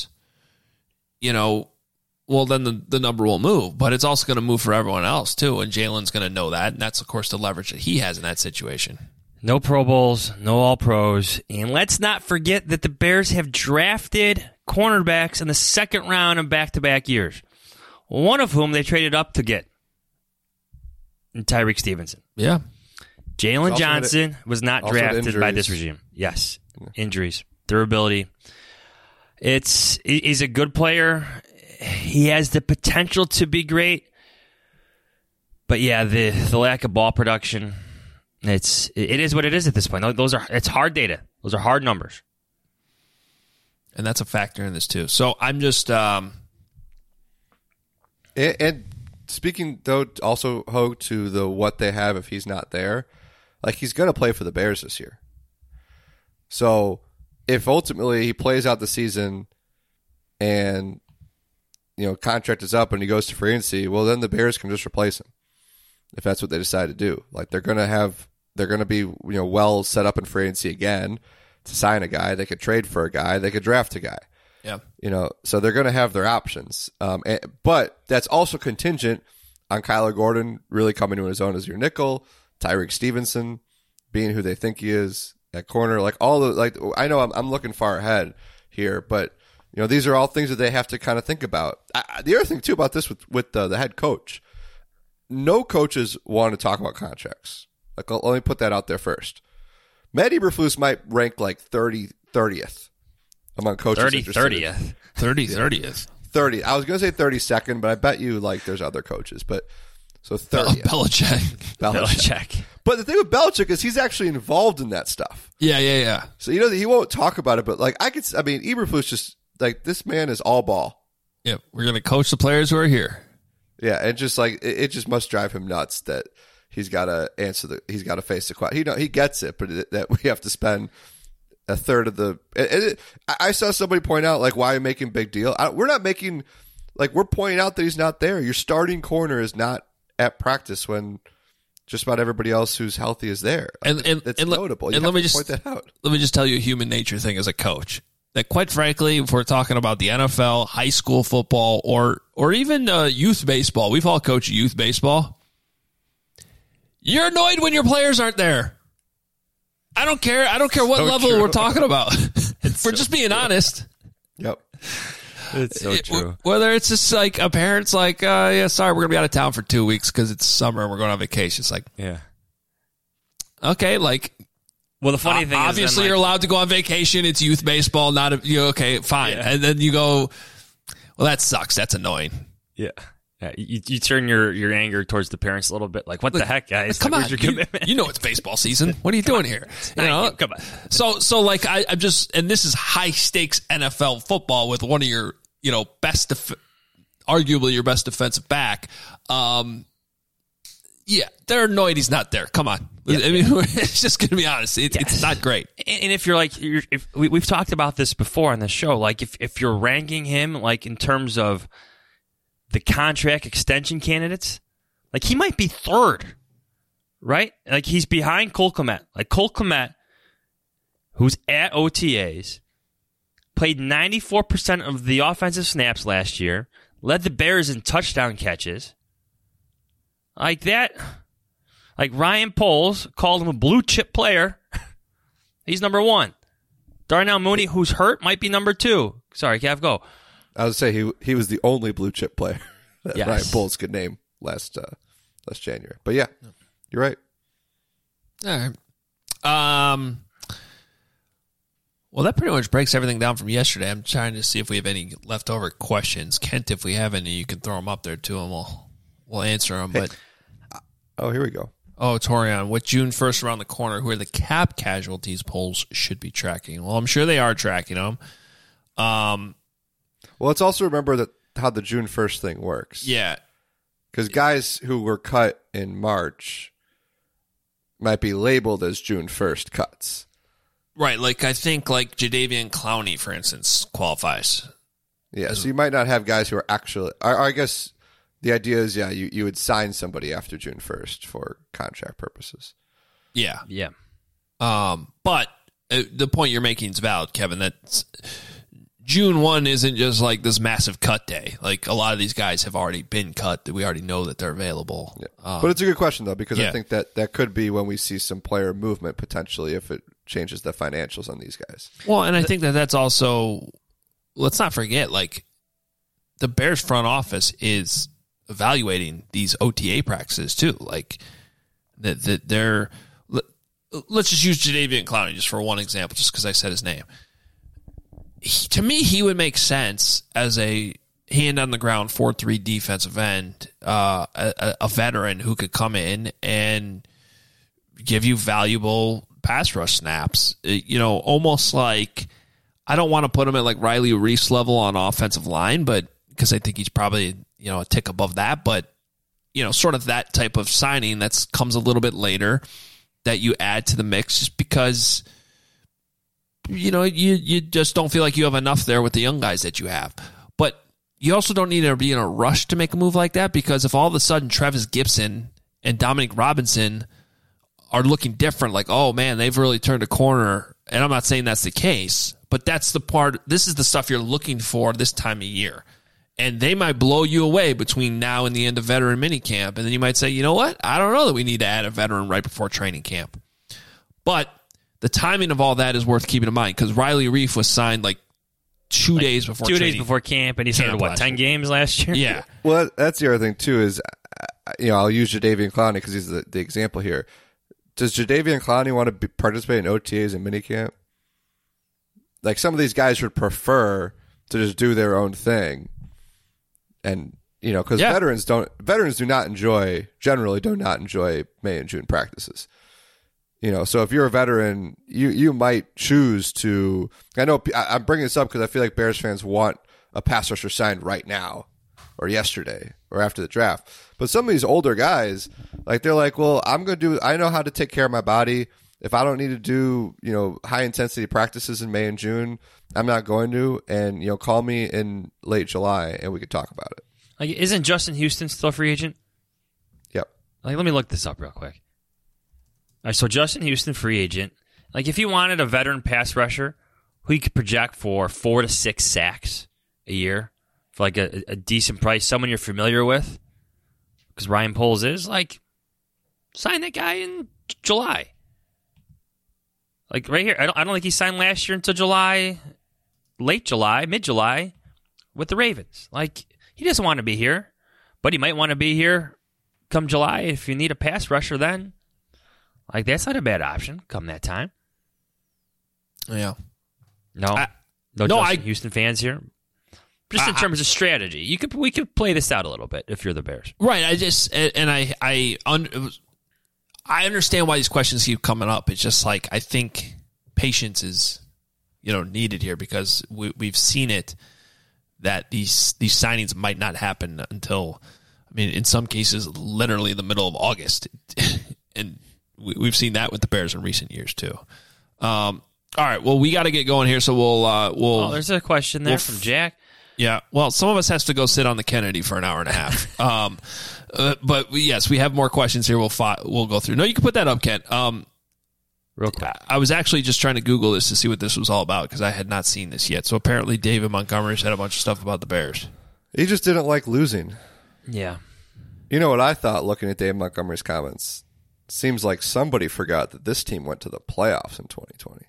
well, then the number will move. But it's also going to move for everyone else, too. And Jalen's going to know that. And that's, of course, the leverage that he has in that situation. No Pro Bowls, no All-Pros. And let's not forget that the Bears have drafted cornerbacks in the second round in back-to-back years. One of whom they traded up to get. Tyreek Stevenson. Yeah. Jalen Johnson was not drafted by this regime. Yes. Injuries. Durability. He's a good player. He has the potential to be great. But yeah, the lack of ball production, it is what it is at this point. It's hard data. Those are hard numbers. And that's a factor in this too. So I'm just And speaking, though, also, Ho, to what they have if he's not there, like, he's going to play for the Bears this year. So if ultimately he plays out the season and, contract is up and he goes to free agency, well, then the Bears can just replace him if that's what they decide to do. Like, they're going to be, well set up in free agency again to sign a guy. They could trade for a guy. They could draft a guy. Yeah. So they're going to have their options. But that's also contingent on Kyler Gordon really coming to his own as your nickel, Tyreek Stevenson being who they think he is at corner. Like, I know I'm looking far ahead here, but these are all things that they have to kind of think about. The other thing too about this with the head coach, no coaches want to talk about contracts. Like, let me put that out there first. Matt Eberflus might rank like 30th. Among coaches 30th. 30th. 30. I was going to say 32nd, but I bet you there's other coaches. But so 30th. Belichick. But the thing with Belichick is he's actually involved in that stuff. Yeah. So that he won't talk about it, but Eberflus just this man is all ball. Yeah, we're going to coach the players who are here. Yeah, and just it just must drive him nuts that he's got to he's got to face the question. He gets it, but that we have to spend a third of the. I saw somebody point out why are you making big deal? We're not making we're pointing out that he's not there. Your starting corner is not at practice when just about everybody else who's healthy is there. It's notable. And let me just point that out. Let me just tell you a human nature thing as a coach. That quite frankly, if we're talking about the NFL, high school football, or even youth baseball, we've all coached youth baseball. You're annoyed when your players aren't there. I don't care what level we're talking about. We're just being honest. Yep. It's so true. Whether it's just a parent's sorry, we're going to be out of town for 2 weeks because it's summer and we're going on vacation. It's yeah. Okay, well, the funny thing obviously is then, you're allowed to go on vacation. It's youth baseball, not okay, fine. Yeah. And then you go, well, that sucks. That's annoying. Yeah. You turn your anger towards the parents a little bit. What the heck, guys? Come on, where's your commitment? You know it's baseball season. What are you doing here? Come on. So I'm just, and this is high stakes NFL football with one of your arguably your best defensive back. Yeah, they're annoyed he's not there. Come on. Yeah. I mean, it's just going to be honest. It's not great. And if we've talked about this before on the show, if you're ranking him in terms of the contract extension candidates, he might be third, right? He's behind Cole Kmet. Cole Kmet, who's at OTAs, played 94% of the offensive snaps last year, led the Bears in touchdown catches. That, Ryan Poles called him a blue chip player. He's number 1. Darnell Mooney, who's hurt, might be number 2. Sorry, Cav, go. I would say he was the only blue chip player that yes. Ryan Poles could name last January. But yeah, you're right. All right. Well, that pretty much breaks everything down from yesterday. I'm trying to see if we have any leftover questions. Kent, if we have any, you can throw them up there too, and we'll answer them. But Oh, here we go. Torian, with June 1st around the corner, who are the cap casualties polls should be tracking? Well, I'm sure they are tracking them. Well, let's also remember that how the June 1st thing works. Yeah. Because guys who were cut in March might be labeled as June 1st cuts. Right, like I think like Jadeveon Clowney, for instance, qualifies. Yeah, so you might not have guys who are actually... I guess the idea is, yeah, you would sign somebody after June 1st for contract purposes. Yeah. Yeah. But the point you're making is valid, Kevin, that June 1 isn't just like this massive cut day. Like a lot of these guys have already been cut, that we already know that they're available. Yeah. But it's a good question, though, because yeah. I think that could be when we see some player movement potentially if it changes the financials on these guys. Well, and I think that's also, let's not forget, like the Bears front office is evaluating these OTA practices too. Like that they're, let's just use Jadeveon Clowney just for one example, just because I said his name. To me, he would make sense as a hand on the ground 4-3 defensive end, a veteran who could come in and give you valuable pass rush snaps. Almost like, I don't want to put him at like Riley Reif's level on offensive line, but because I think he's probably a tick above that, but sort of that type of signing that comes a little bit later that you add to the mix, just because you just don't feel like you have enough there with the young guys that you have. But you also don't need to be in a rush to make a move like that, because if all of a sudden Travis Gibson and Dominic Robinson are looking different, like, oh man, they've really turned a corner, and I'm not saying that's the case, but that's the part, this is the stuff you're looking for this time of year. And they might blow you away between now and the end of veteran minicamp, and then you might say, you know what, I don't know that we need to add a veteran right before training camp. But the timing of all that is worth keeping in mind, because Riley Reif was signed like 2 days before 2 days before camp, and he started, 10 games last year? Yeah. Well, that's the other thing, too, is, I'll use Jadeveon Clowney because he's the example here. Does Jadeveon Clowney want to participate in OTAs and minicamp? Like, some of these guys would prefer to just do their own thing. And, because veterans generally do not enjoy May and June practices. So if you're a veteran, you might choose to. I know I'm bringing this up because I feel like Bears fans want a pass rusher signed right now, or yesterday, or after the draft. But some of these older guys, like they're like, well, I know how to take care of my body. If I don't need to do high intensity practices in May and June, I'm not going to. And call me in late July and we could talk about it. Like, isn't Justin Houston still a free agent? Yep. Like, let me look this up real quick. All right, so Justin Houston, free agent. Like, if you wanted a veteran pass rusher who you could project for 4 to 6 sacks a year for like a decent price, someone you're familiar with, because Ryan Poles is, like, sign that guy in July. Like, right here, I don't think he signed last year until July, late July, mid-July, with the Ravens. Like, he doesn't want to be here, but he might want to be here come July if you need a pass rusher then. Like, that's not a bad option come that time. Yeah. No Justin Houston fans here. Just in terms of strategy, we could play this out a little bit if you're the Bears. Right. I understand why these questions keep coming up. It's just like, I think patience is needed here, because we've seen it that these signings might not happen until, in some cases, literally the middle of August. And we've seen that with the Bears in recent years too. All right, well, we got to get going here, so we'll. Oh, there's a question there from Jack. Yeah, well, some of us has to go sit on the Kennedy for an hour and a half. But yes, we have more questions here. We'll go through. No, you can put that up, Kent. Real quick. I was actually just trying to Google this to see what this was all about, because I had not seen this yet. So apparently David Montgomery said a bunch of stuff about the Bears. He just didn't like losing. Yeah. You know what I thought looking at David Montgomery's comments? Seems like somebody forgot that this team went to the playoffs in 2020.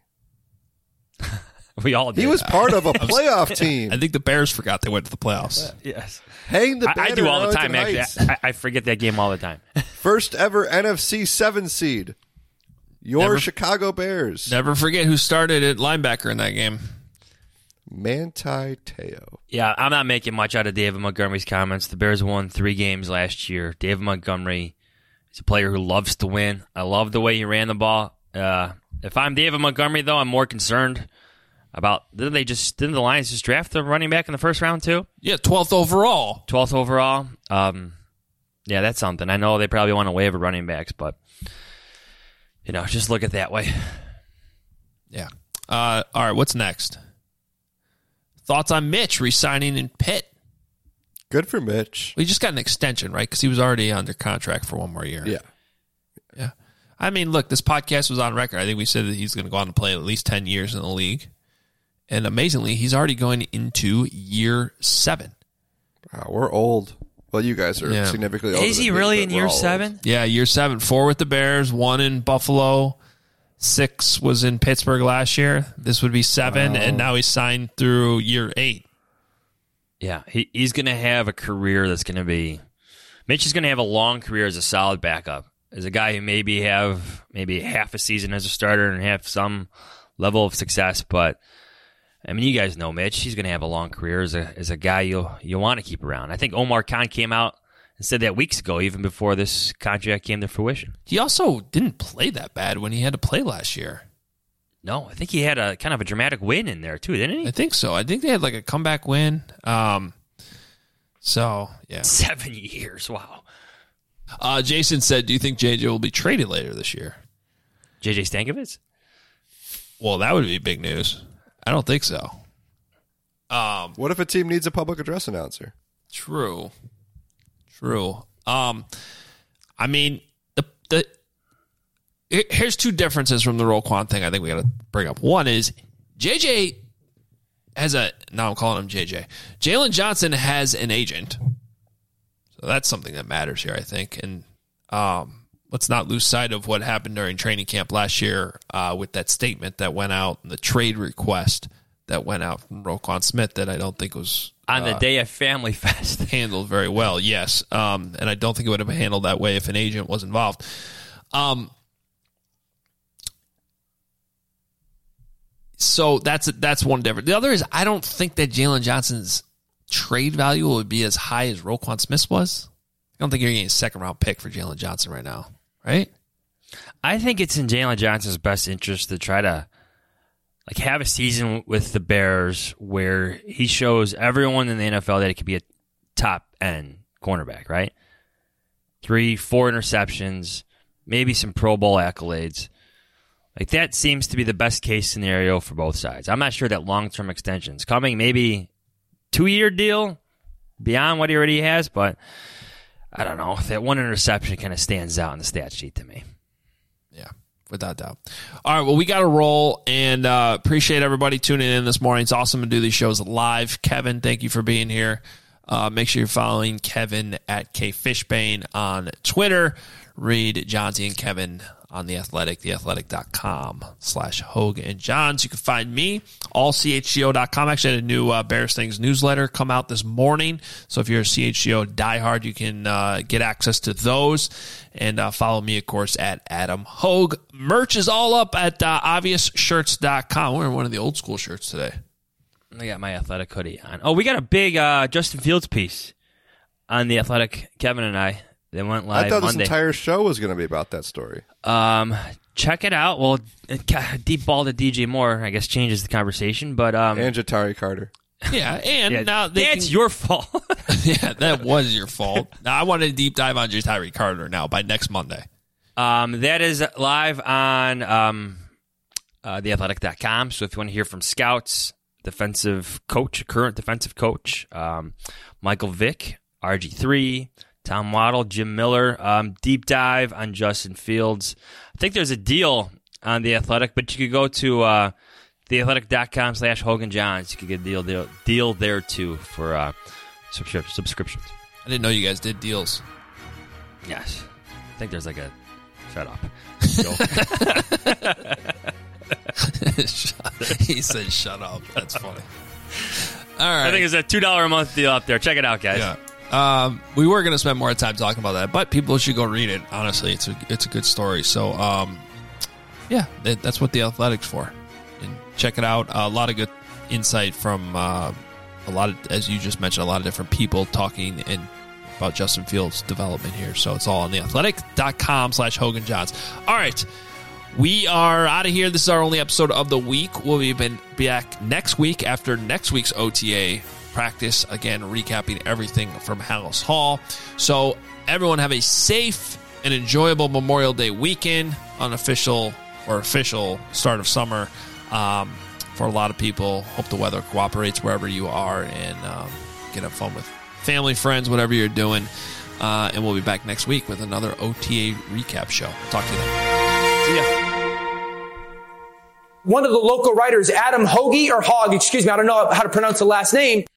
We all did. He was part of a playoff team. I think the Bears forgot they went to the playoffs. Yes. Hang the banner. I do all the time, Heights. actually. I forget that game all the time. First ever NFC 7 seed. Your Chicago Bears. Never forget who started at linebacker in that game. Manti Te'o. Yeah, I'm not making much out of David Montgomery's comments. The Bears won 3 games last year. David Montgomery is a player who loves to win. I love the way he ran the ball. If I'm David Montgomery, though, I'm more concerned about didn't the Lions just draft the running back in the first round too? Yeah, 12th overall. 12th overall. Yeah, that's something. I know they probably want to waive running backs, but just look at it that way. Yeah. All right, what's next? Thoughts on Mitch re-signing in Pitt? Good for Mitch. We just got an extension, right? Because he was already under contract for 1 more year. Yeah. I mean, look, this podcast was on record. I think we said that he's going to go on to play at least 10 years in the league. And amazingly, he's already going into year 7. Wow, we're old. Well, you guys are significantly older. Is he than me, really but in we're year all 7? old. Yeah, year 7. 4 with the Bears, 1 in Buffalo, 6 was in Pittsburgh last year. This would be 7, and now he's signed through year 8. Yeah, he's going to have a career that's going to be... Mitch is going to have a long career as a solid backup. As a guy who maybe half a season as a starter and have some level of success. But, I mean, you guys know Mitch. He's going to have a long career as a guy you want to keep around. I think Omar Khan came out and said that weeks ago, even before this contract came to fruition. He also didn't play that bad when he had to play last year. No, I think he had a kind of a dramatic win in there, too, didn't he? I think so. I think they had like a comeback win. So, yeah. 7 years, wow. Jason said, do you think JJ will be traded later this year? JJ Stankovitz? Well, that would be big news. I don't think so. What if a team needs a public address announcer? True. I mean, here's 2 differences from the Roquan thing I think we got to bring up. One is JJ has now I'm calling him JJ. Jalen Johnson has an agent. So that's something that matters here, I think. And let's not lose sight of what happened during training camp last year with that statement that went out, the trade request that went out from Roquan Smith that I don't think was... On the day of Family Fest. handled very well, yes. And I don't think it would have been handled that way if an agent was involved. So that's one difference. The other is I don't think that Jalen Johnson's trade value would be as high as Roquan Smith was. I don't think you're getting a second-round pick for Jalen Johnson right now, right? I think it's in Jalen Johnson's best interest to try to have a season with the Bears where he shows everyone in the NFL that he could be a top-end cornerback, right? 3-4 interceptions, maybe some Pro Bowl accolades. That seems to be the best-case scenario for both sides. I'm not sure that long-term extension's coming. Maybe 2-year deal beyond what he already has, but I don't know. That 1 interception kind of stands out in the stat sheet to me. Yeah, without doubt. All right, well, we got to roll, and appreciate everybody tuning in this morning. It's awesome to do these shows live. Kevin, thank you for being here. Make sure you're following Kevin at KFishbane on Twitter. Read Johnsy and Kevin on The Athletic, theathletic.com/Hogue and Johns. You can find me, allchgo.com. Actually, I had a new Bears Things newsletter come out this morning. So if you're a CHGO diehard, you can get access to those. And follow me, of course, at Adam Hogue. Merch is all up at obviousshirts.com. We're wearing one of the old school shirts today. I got my Athletic hoodie on. Oh, we got a big Justin Fields piece on The Athletic, Kevin and I. They went live I thought Monday. this entire show was going to be about that story. Check it out. Well, deep ball to DJ Moore, I guess, changes the conversation. But And Ja'Tari Carter. Yeah, and now that's your fault. Yeah, that was your fault. Now I want to deep dive on Tyree Carter now by next Monday. That is live on theathletic.com. So if you want to hear from scouts, current defensive coach, Michael Vick, RG3, Tom Waddle, Jim Miller, deep dive on Justin Fields. I think there's a deal on The Athletic, but you could go to theathletic.com/Hogan Johns. You could get a deal there too for subscriptions. I didn't know you guys did deals. Yes. I think there's like a... Shut up. He said shut up. That's funny. All right. I think it's a $2 a month deal up there. Check it out, guys. Yeah. We were going to spend more time talking about that, but people should go read it. Honestly, it's a good story. So Yeah, that's what The Athletic's for. And check it out. A lot of good insight from a lot of, as you just mentioned, a lot of different people talking about Justin Fields' development here. So it's all on theathletic.com/Hogan Johns. All right. We are out of here. This is our only episode of the week. We'll be back next week after next week's OTA practice. Again, recapping everything from Hallis Hall. So everyone have a safe and enjoyable Memorial Day weekend, unofficial or official start of summer for a lot of people. Hope the weather cooperates wherever you are, and get have fun with family, friends, whatever you're doing. And we'll be back next week with another OTA recap show. Talk to you then. See ya. One of the local writers, Adam Hoge, I don't know how to pronounce the last name,